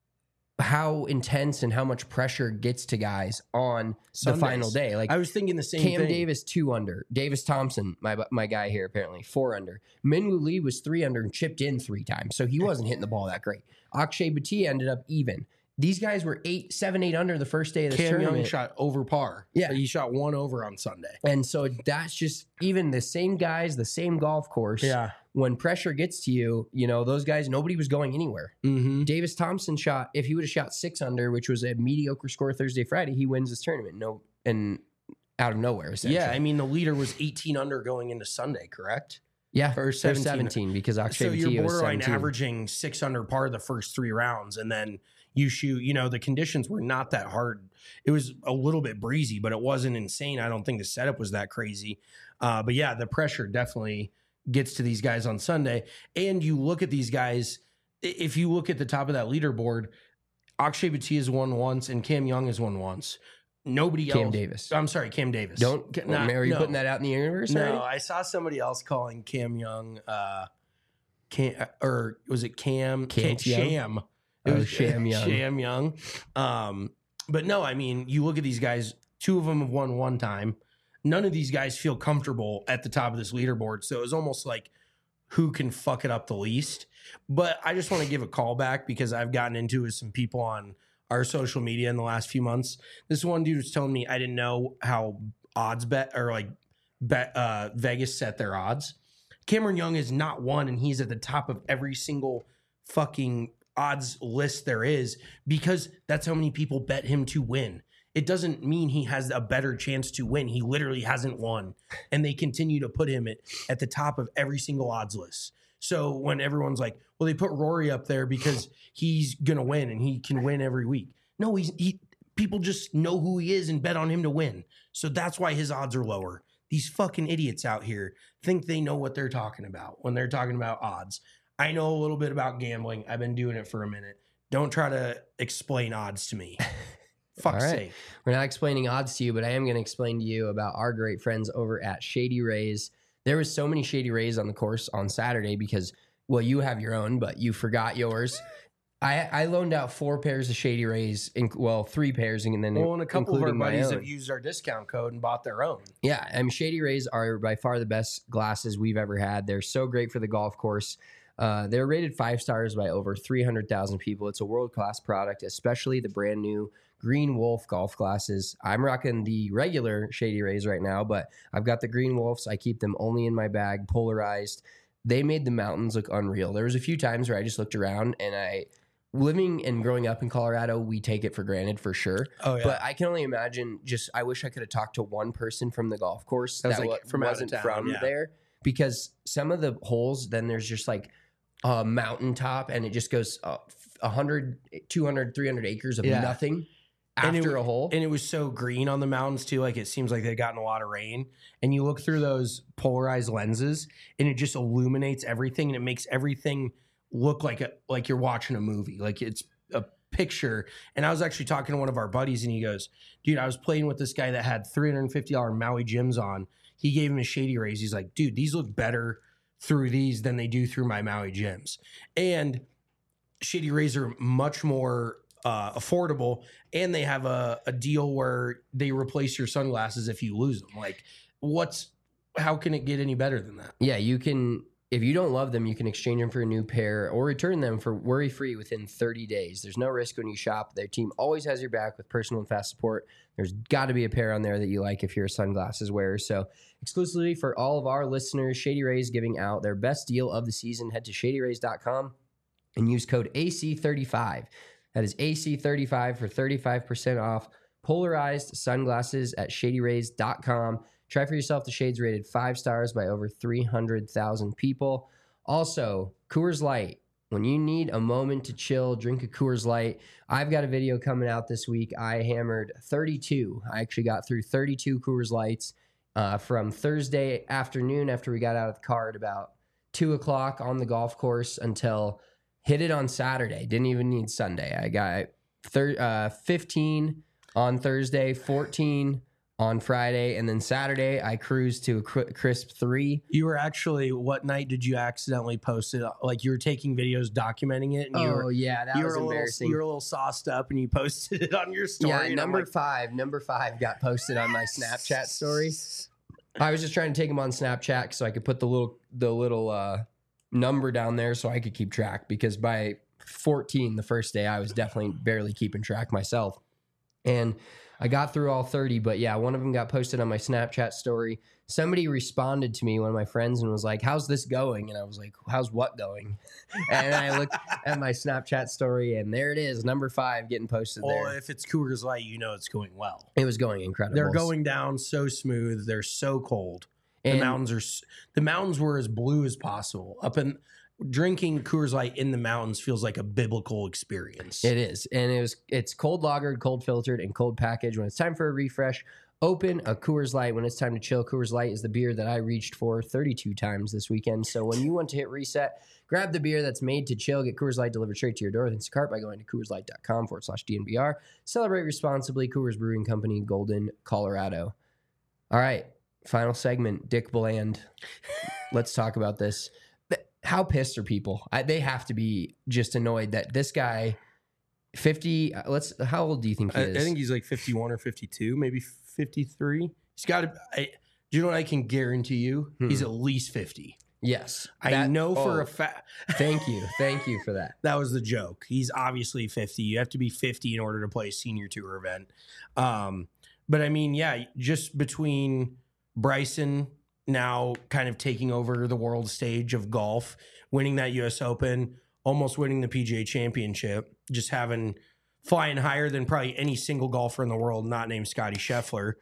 how intense and how much pressure gets to guys on Sundays. the final day. Like I was thinking the same Cam thing. Davis, two under. Davis Thompson, my my guy here, apparently, four under. Minwoo Lee was three under and chipped in three times, so he wasn't hitting the ball that great. Akshay Bhatia ended up even. These guys were eight, seven, eight under the first day of the Cam tournament. Young shot over par. Yeah. He shot one over on Sunday. And so that's just even the same guys, the same golf course. Yeah. When pressure gets to you, you know, those guys, nobody was going anywhere. Mm-hmm. Davis Thompson shot, if he would have shot six under, which was a mediocre score Thursday, Friday, he wins this tournament. No, and out of nowhere, essentially. Yeah, I mean, the leader was eighteen under going into Sunday, correct? Yeah, Or they're seventeen. seventeen because Akshay So Bhatia you're was borderline seventeen. averaging six under par the first three rounds, and then you shoot. You know, the conditions were not that hard. It was a little bit breezy, but it wasn't insane. I don't think the setup was that crazy. Uh, but yeah, the pressure definitely gets to these guys on Sunday. And you look at these guys. If you look at the top of that leaderboard, Akshay Bhatia has won once, and Cam Young has won once. Nobody Cam else. Davis. I'm sorry, Cam Davis. Don't, Ca- not- are you no. putting that out in the universe No, already? I saw somebody else calling Cam Young, uh, Cam, or was it Cam? Cant Cam Young? Sham. It Oh, was Sham Young. Sham Young. Um, but no, I mean, you look at these guys. Two of them have won one time. None of these guys feel comfortable at the top of this leaderboard. So it was almost like who can fuck it up the least. But I just want to give a call back because I've gotten into it with some people on our social media in the last few months. This one dude was telling me I didn't know how odds bet or like bet uh, Vegas set their odds. Cameron Young is not one, and he's at the top of every single fucking odds list there is because that's how many people bet him to win. It doesn't mean he has a better chance to win. He literally hasn't won, and they continue to put him at, at the top of every single odds list. So when everyone's like, well, they put Rory up there because he's going to win and he can win every week. No, he's he. People just know who he is and bet on him to win. So that's why his odds are lower. These fucking idiots out here think they know what they're talking about when they're talking about odds. I know a little bit about gambling. I've been doing it for a minute. Don't try to explain odds to me. Fuck's All right. sake. We're not explaining odds to you, but I am going to explain to you about our great friends over at Shady Rays. there was so many Shady Rays on the course on Saturday because, well, you have your own, but you forgot yours. I, I loaned out four pairs of Shady Rays, in, well, three pairs, and then well, and a couple of our buddies own. have used our discount code and bought their own. Yeah, I mean, Shady Rays are by far the best glasses we've ever had. They're so great for the golf course. Uh, they're rated five stars by over three hundred thousand people. It's a world-class product, especially the brand new Green Wolf golf glasses. I'm rocking the regular Shady Rays right now, but I've got the Green Wolves. I keep them only in my bag, polarized. They made the mountains look unreal. There was a few times where I just looked around and I... Living and growing up in Colorado, we take it for granted for sure. Oh, yeah. But I can only imagine just, I wish I could have talked to one person from the golf course that, was that like wa- from out of wasn't town, from yeah. there. Because some of the holes, then there's just like a mountaintop and it just goes uh, one hundred, two hundred, three hundred acres of Yeah. nothing And after it- a hole. And it was so green on the mountains too. Like it seems like they'd gotten a lot of rain. And you look through those polarized lenses and it just illuminates everything and it makes everything look like a like you're watching a movie. Like it's a picture. And I was actually talking to one of our buddies and he goes, dude, I was playing with this guy that had three hundred fifty dollars Maui Gyms on. He gave him his Shady Rays. He's like, dude, these look better through these than they do through my Maui Gyms. And Shady Rays are much more uh, affordable, and they have a, a deal where they replace your sunglasses if you lose them. Like, what's how can it get any better than that? Yeah, you can, if you don't love them, you can exchange them for a new pair or return them for worry-free within thirty days. There's no risk when you shop. Their team always has your back with personal and fast support. There's got to be a pair on there that you like if you're a sunglasses wearer. So exclusively for all of our listeners, Shady Rays giving out their best deal of the season. Head to shady rays dot com and use code A C thirty-five. That is A C thirty-five for thirty-five percent off polarized sunglasses at shady rays dot com. Try for yourself the shades rated five stars by over three hundred thousand people. Also, Coors Light. When you need a moment to chill, drink a Coors Light. I've got a video coming out this week. I hammered thirty-two. I actually got through thirty-two Coors Lights uh, from Thursday afternoon after we got out of the car at about two o'clock on the golf course until hit it on Saturday. Didn't even need Sunday. I got thir- uh, fifteen on Thursday, fourteen on Friday, and then Saturday I cruised to a cr- crisp three. You were actually, what night did you accidentally post it? Like you were taking videos documenting it, and you Oh were yeah, that you was were a little embarrassing. you were a little sauced up, and you posted it on your story. Yeah, and I'm number like, five, number five got posted on my Snapchat story. I was just trying to take them on Snapchat so I could put the little the little uh, number down there so I could keep track, because by fourteen the first day I was definitely barely keeping track myself. And I got through all thirty, but yeah, one of them got posted on my Snapchat story. Somebody responded to me, one of my friends, and was like, how's this going? And I was like, how's what going? And I looked at my Snapchat story, and there it is, number five getting posted well, there. if it's Coors Light, you know it's going well. It was going incredible. They're going down so smooth. They're so cold. The And- mountains are s- the mountains were as blue as possible. Up in drinking Coors Light in the mountains feels like a biblical experience. It is, and it was. It's cold lagered, cold filtered, and cold packaged. When it's time for a refresh, open a Coors Light. When it's time to chill, Coors Light is the beer that I reached for thirty-two times this weekend. So when you want to hit reset, grab the beer that's made to chill. Get Coors Light delivered straight to your door with Instacart by going to CoorsLight.com forward slash DNVR. Celebrate responsibly. Coors Brewing Company, Golden, Colorado. All right, final segment. Dick Bland. Let's talk about this. How pissed are people? I, they have to be just annoyed that this guy, fifty. Let's. How old do you think he I, is? I think he's like fifty-one or fifty-two, maybe fifty-three. He's got to. Do you know what I can guarantee you? Hmm. He's at least fifty. yes. I That- know for oh, a fact. Thank you. Thank you for that. That was the joke. He's obviously fifty. You have to be fifty in order to play a senior tour event. Um, but I mean, yeah, just between Bryson now kind of taking over the world stage of golf, winning that U S Open, almost winning the P G A Championship, just having flying higher than probably any single golfer in the world not named Scotty Scheffler.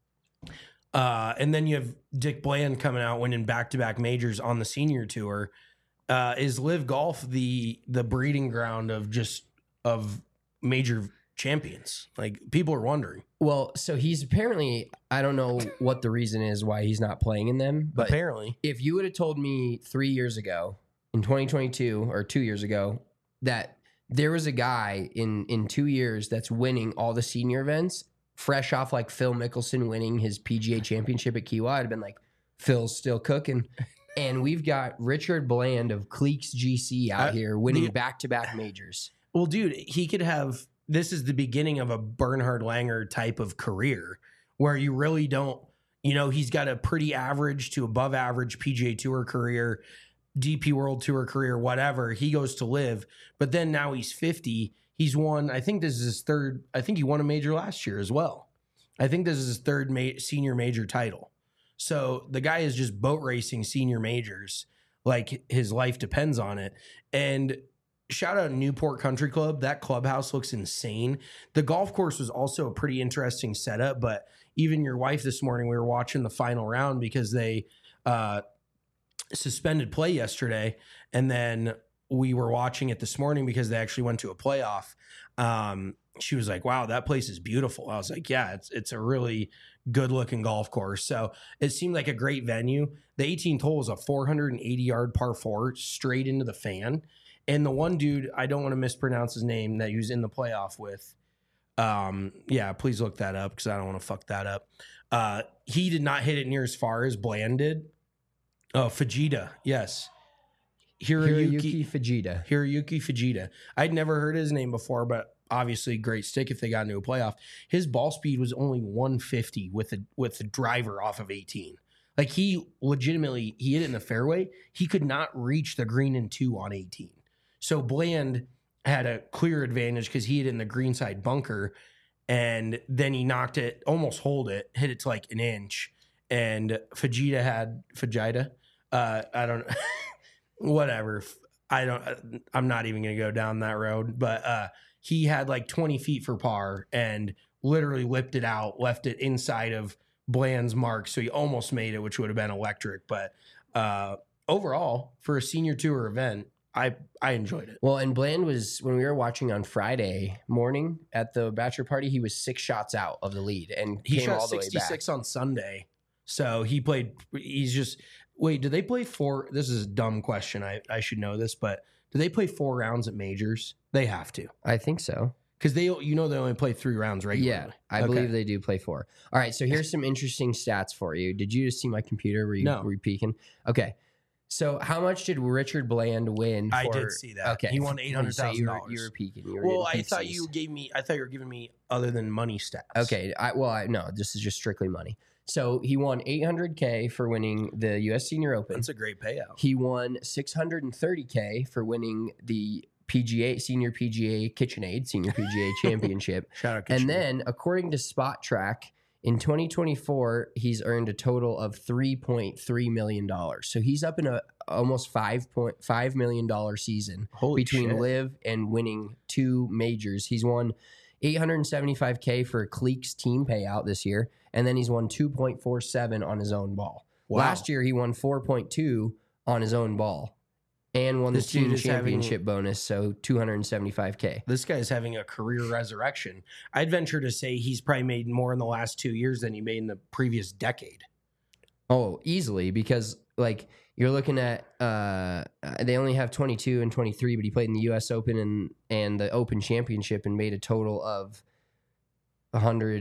Uh, and then you have Dick Bland coming out winning back-to-back majors on the senior tour. Uh, is Live Golf the the breeding ground of just of major champions? Like people are wondering. Well, so he's apparently. I don't know what the reason is why he's not playing in them, but Apparently, if you would have told me three years ago, in twenty twenty-two or two years ago, that there was a guy in in two years that's winning all the senior events, fresh off like Phil Mickelson winning his P G A Championship at Kiawah, I'd have been like, Phil's still cooking. And we've got Richard Bland of Cleeks G C out Uh, here winning the- back-to-back majors. Well, dude, he could have. This is the beginning of a Bernhard Langer type of career where you really don't. You know, he's got a pretty average to above average P G A Tour career, D P World Tour career, whatever. He goes to live, but then now he's fifty. He's won. I think this is his third. I think he won a major last year as well. I think this is his third ma- senior major title. So the guy is just boat racing senior majors like his life depends on it. And shout out Newport Country Club. That clubhouse looks insane. The golf course was also a pretty interesting setup, but even your wife this morning, we were watching the final round because they uh, suspended play yesterday. And then we were watching it this morning because they actually went to a playoff. Um, she was like, wow, that place is beautiful. I was like, yeah, it's it's a really good looking golf course. So it seemed like a great venue. The eighteenth hole is a four hundred eighty yard par four straight into the fan. And the one dude, I don't want to mispronounce his name, that he was in the playoff with. Um, yeah, please look that up because I don't want to fuck that up. Uh, he did not hit it near as far as Bland did. Oh, Fujita, yes. Hiroyuki Fujita. Hiroyuki Fujita. I'd never heard his name before, but obviously great stick if they got into a playoff. His ball speed was only one fifty with the with the driver off of eighteen. Like he legitimately, he hit it in the fairway. He could not reach the green in two on eighteen. So Bland had a clear advantage because he hit it in the greenside bunker, and then he knocked it, almost hold it, hit it to like an inch. And Fujita had Fujita. Uh, I don't know. Whatever. I don't, I'm not even going to go down that road, but uh, he had like twenty feet for par and literally lipped it out, left it inside of Bland's mark. So he almost made it, which would have been electric. But uh, overall, for a senior tour event, I, I enjoyed it. Well, and Bland was, when we were watching on Friday morning at the bachelor party, he was six shots out of the lead and He came shot all the way back. sixty-six on Sunday. So he played, he's just, wait, do they play four? This is a dumb question. I, I should know this, but do they play four rounds at majors? They have to. I think so. Because they, you know, they only play three rounds regularly. Yeah, I Okay. believe they do play four. All right, so here's some interesting stats for you. Did you just see my computer? Were you, No. were you peeking? Okay. So how much did Richard Bland win? I for, did see that. Okay. He won eight hundred So thousand you were- dollars. You were peeking. You were Well, I getting thought pixies. you gave me. I thought you were giving me other than money stats. Okay. I, well, I, no, this is just strictly money. So he won eight hundred K for winning the U S Senior Open. That's a great payout. He won six hundred thirty K for winning the P G A Senior P G A KitchenAid Senior P G A Championship. Shout out. And Kitchener. then, according to Spot Track, in twenty twenty-four, he's earned a total of three point three million dollars. So he's up in a almost five point five million dollars season Holy between shit. Live and winning two majors. He's won eight hundred seventy-five K for a Cleeks team payout this year, and then he's won two point four seven on his own ball. Wow. Last year, he won four point two on his own ball and won This the team dude is having- championship bonus, so two hundred seventy-five K. This guy's having a career resurrection. I'd venture to say he's probably made more in the last two years than he made in the previous decade. Oh, easily, because like you're looking at uh they only have twenty-two and twenty-three, but he played in the U S Open and and the Open Championship and made a total of one hundred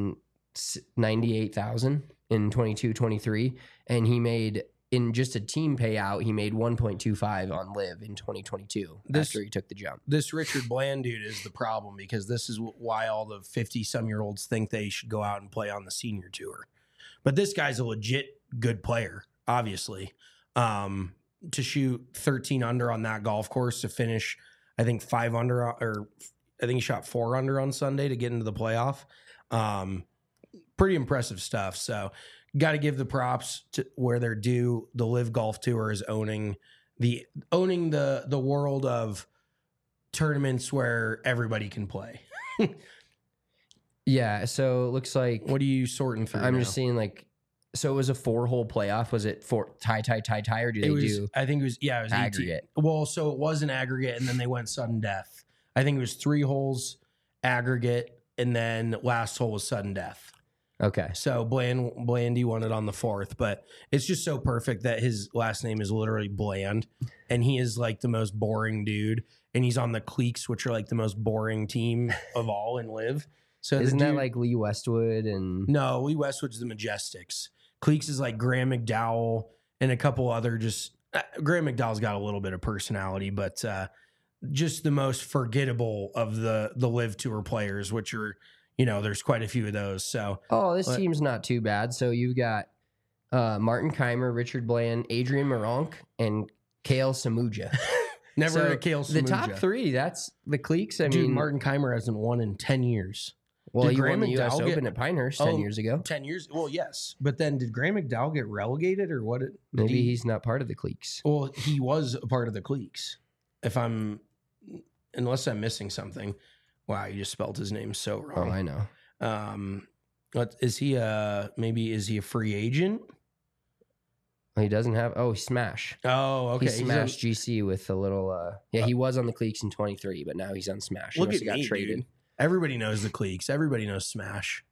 ninety-eight thousand in twenty-two twenty-three, and he made in just a team payout, he made one point two five on Live in twenty twenty-two This- after he took the jump. This Richard Bland dude is the problem because this is why all the fifty-some-year-olds think they should go out and play on the senior tour. But this guy's a legit good player, obviously. Um, to shoot thirteen under on that golf course, to finish, I think, five under, or I think he shot four under on Sunday to get into the playoff. Um, pretty impressive stuff. So got to give the props to where they're due. The Live Golf Tour is owning the owning the the world of tournaments where everybody can play. Yeah, so it looks like What are you sorting through? I'm now? just seeing like so it was a four hole playoff. Was it four tie tie tie tie or do they It was. do I think it was. Yeah, it was eighteen. aggregate? Well, so it was an aggregate, and then they went sudden death. I think it was three holes aggregate, and then last hole was sudden death. Okay. So Bland Blandy won it on the fourth, but it's just so perfect that his last name is literally Bland, and he is like the most boring dude, and he's on the Cleeks, which are like the most boring team of all in Live. So the Isn't that dude- like Lee Westwood and no? Lee Westwood's the Majestics. Cleeks is like Graham McDowell and a couple other just uh, Graham McDowell's got a little bit of personality, but uh, just the most forgettable of the the Live Tour players, which are, you know, there's quite a few of those. So Oh, this but, team's not too bad. So you've got uh, Martin Keimer, Richard Bland, Adrian Moronk, and Kale Samuja. never So a Kale Samuja. The top three, that's the Cleeks. I Dude, mean, Martin Keimer hasn't won in ten years. well, did he Graham won the U S McDowell get- Open at Pinehurst ten Oh, years ago. ten years? Well, yes. But then did Graham McDowell get relegated or what? Did Maybe he, he's not part of the Cleeks. Well, he was a part of the Cleeks. If I'm, unless I'm missing something. Wow, you just spelled his name so Oh, wrong. I know. Um, what is he? Uh, maybe is he a free agent? He doesn't have. Oh, Smash. Oh, okay. He He's on- smashed G C with a little. Uh, yeah, he was on the Cleeks in twenty-three, but now he's on Smash. He Look must at have got me, traded. dude. Everybody knows the Cleeks. Everybody knows Smash.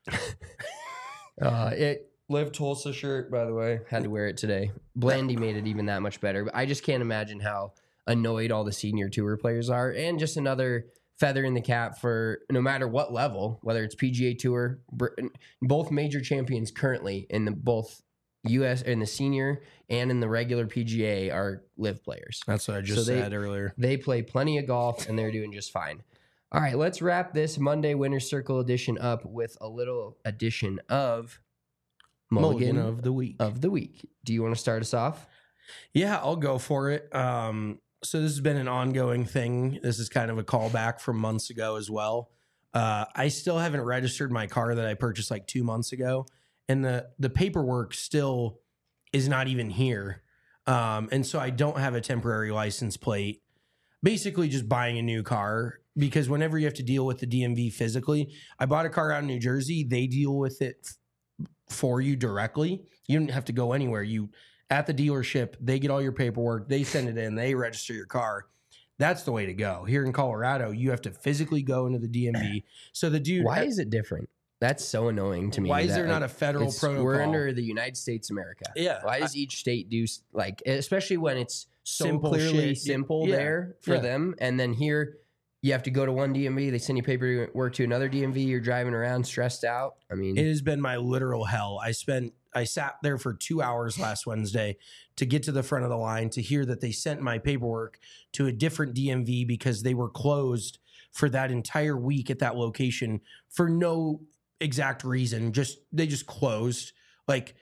Uh, it Live Tulsa shirt, by the way. Had to wear it today. Blandy made it even that much better. But I just can't imagine how annoyed all the senior tour players are, and just another feather in the cap for no matter what level, whether it's P G A Tour, both major champions currently in the both U S in the senior and in the regular P G A are Live players. That's what I just So they- said earlier. They play plenty of golf and they're doing just fine. All right, let's wrap this Monday Winner's Circle edition up with a little edition of Mulligan, Mulligan of the week. of the week. Do you want to start us off? Yeah, I'll go for it. Um, so this has been an ongoing thing. This is kind of a callback from months ago as well. Uh, I still haven't registered my car that I purchased like two months ago, and the the paperwork still is not even here. Um, and so I don't have a temporary license plate. Basically, just buying a new car, because whenever you have to deal with the D M V physically, I bought a car out in New Jersey. They deal with it f- for you directly. You don't have to go anywhere. You at the dealership, they get all your paperwork, they send it in, they register your car. That's the way to go. Here in Colorado, you have to physically go into the D M V. So the dude, Why is it different? That's so annoying to me. why is that, there not like, a federal it's- protocol? We're under the United States of America. Yeah, Why does each state do s- like, especially when it's so Simple clearly shit. simple Yeah. there for Yeah. them, and then here you have to go to one D M V, they send you paperwork to another D M V, you're driving around stressed out. I mean, It has been my literal hell. I spent I sat there for two hours last Wednesday to get to the front of the line to hear that they sent my paperwork to a different D M V because they were closed for that entire week at that location for no exact reason. Just they just closed. Like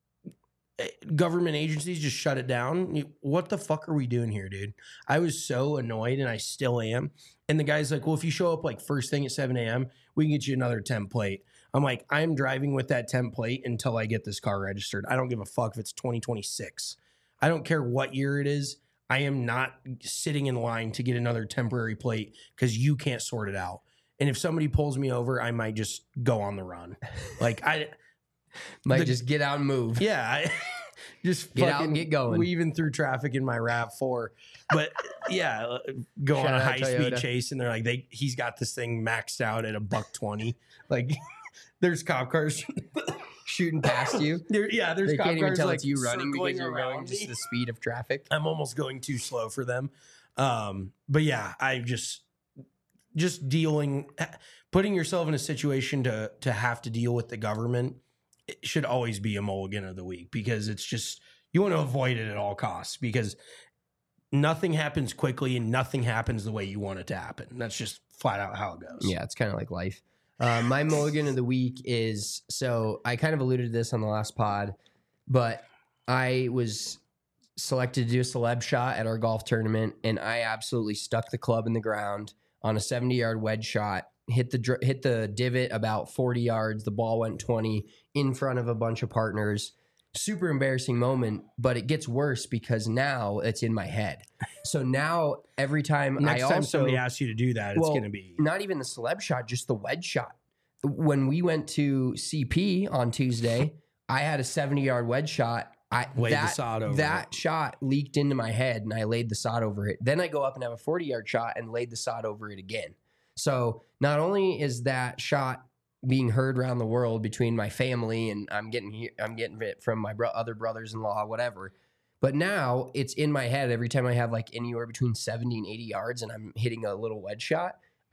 eh, government agencies just shut it down. You- What the fuck are we doing here, dude? I was so annoyed, and I still am. And the guy's like, well, if you show up like first thing at seven a.m., we can get you another template. I'm like, I'm driving with that template until I get this car registered. I don't give a fuck if it's twenty twenty-six. I don't care what year it is. I am not sitting in line to get another temporary plate because you can't sort it out. And if somebody pulls me over, I might just go on the run. Like I might the- just get out and move. yeah, I just Get out fucking and get going. weaving through traffic in my RAV four. But yeah, uh, go Shout on a out high speed Toyota. chase, and they're like, they he's got this thing maxed out at a buck twenty. Like there's cop cars. Shooting past you. There, yeah, there's They cop can't even cars tell like it's you running circling because you're going around just me. the speed of traffic. I'm almost going too slow for them. Um, but yeah, I just just dealing, putting yourself in a situation to to have to deal with the government, it should always be a mulligan of the week, because it's just, you want to avoid it at all costs, because nothing happens quickly and nothing happens the way you want it to happen. That's just flat out how it goes. Yeah, it's kind of like life. Uh, my mulligan of the week is, so I kind of alluded to this on the last pod, but I was selected to do a celeb shot at our golf tournament, and I absolutely stuck the club in the ground on a seventy yard wedge shot, hit the dr- hit the divot about forty yards. The ball went twenty in front of a bunch of partners. Super embarrassing moment, but it gets worse because now it's in my head. So now every time Next I time also, somebody asks you to do that, it's well, going to be not even the celeb shot, just the wedge shot. When we went to C P on Tuesday, I had a seventy yard wedge shot. I Laid the that, sod over that it. shot leaked into my head, and I laid the sod over it. Then I go up and have a forty yard shot and laid the sod over it again. So not only is that shot being heard around the world between my family, and I'm getting he- I'm getting it from my bro- other brothers-in-law, whatever. But now it's in my head every time I have like anywhere between seventy and eighty yards and I'm hitting a little wedge shot.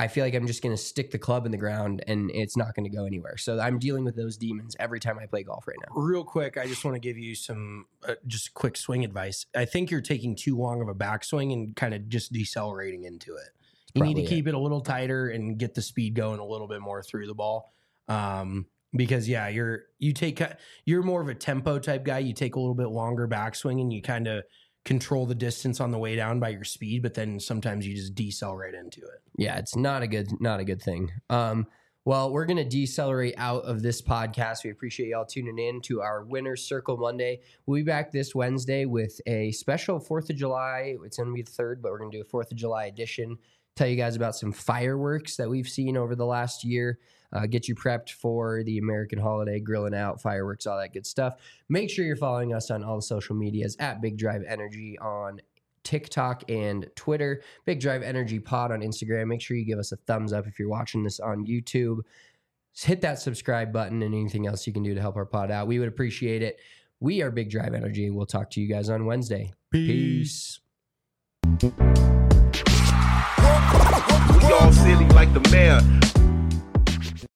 I feel like I'm just going to stick the club in the ground and it's not going to go anywhere. So I'm dealing with those demons every time I play golf right now. Real quick, I just want to give you some uh, just quick swing advice. I think you're taking too long of a backswing and kind of just decelerating into it. You need to keep it. it a little tighter and get the speed going a little bit more through the ball. Um, because yeah, you're you take you're more of a tempo type guy. You take a little bit longer backswing and you kind of control the distance on the way down by your speed, but then sometimes you just decelerate into it. Yeah, it's not a good not a good thing. Um, well, we're gonna decelerate out of this podcast. We appreciate y'all tuning in to our Winner's Circle Monday. We'll be back this Wednesday with a special Fourth of July. It's gonna be the third, but we're gonna do a Fourth of July edition. Tell you guys about some fireworks that we've seen over the last year. Uh, get you prepped for the American holiday, grilling out, fireworks, all that good stuff. Make sure you're following us on all the social medias at Big Drive Energy on TikTok and Twitter. Big Drive Energy Pod on Instagram. Make sure you give us a thumbs up if you're watching this on YouTube. Just hit that subscribe button and anything else you can do to help our pod out. We would appreciate it. We are Big Drive Energy. We'll talk to you guys on Wednesday. Peace. We all silly like the mayor.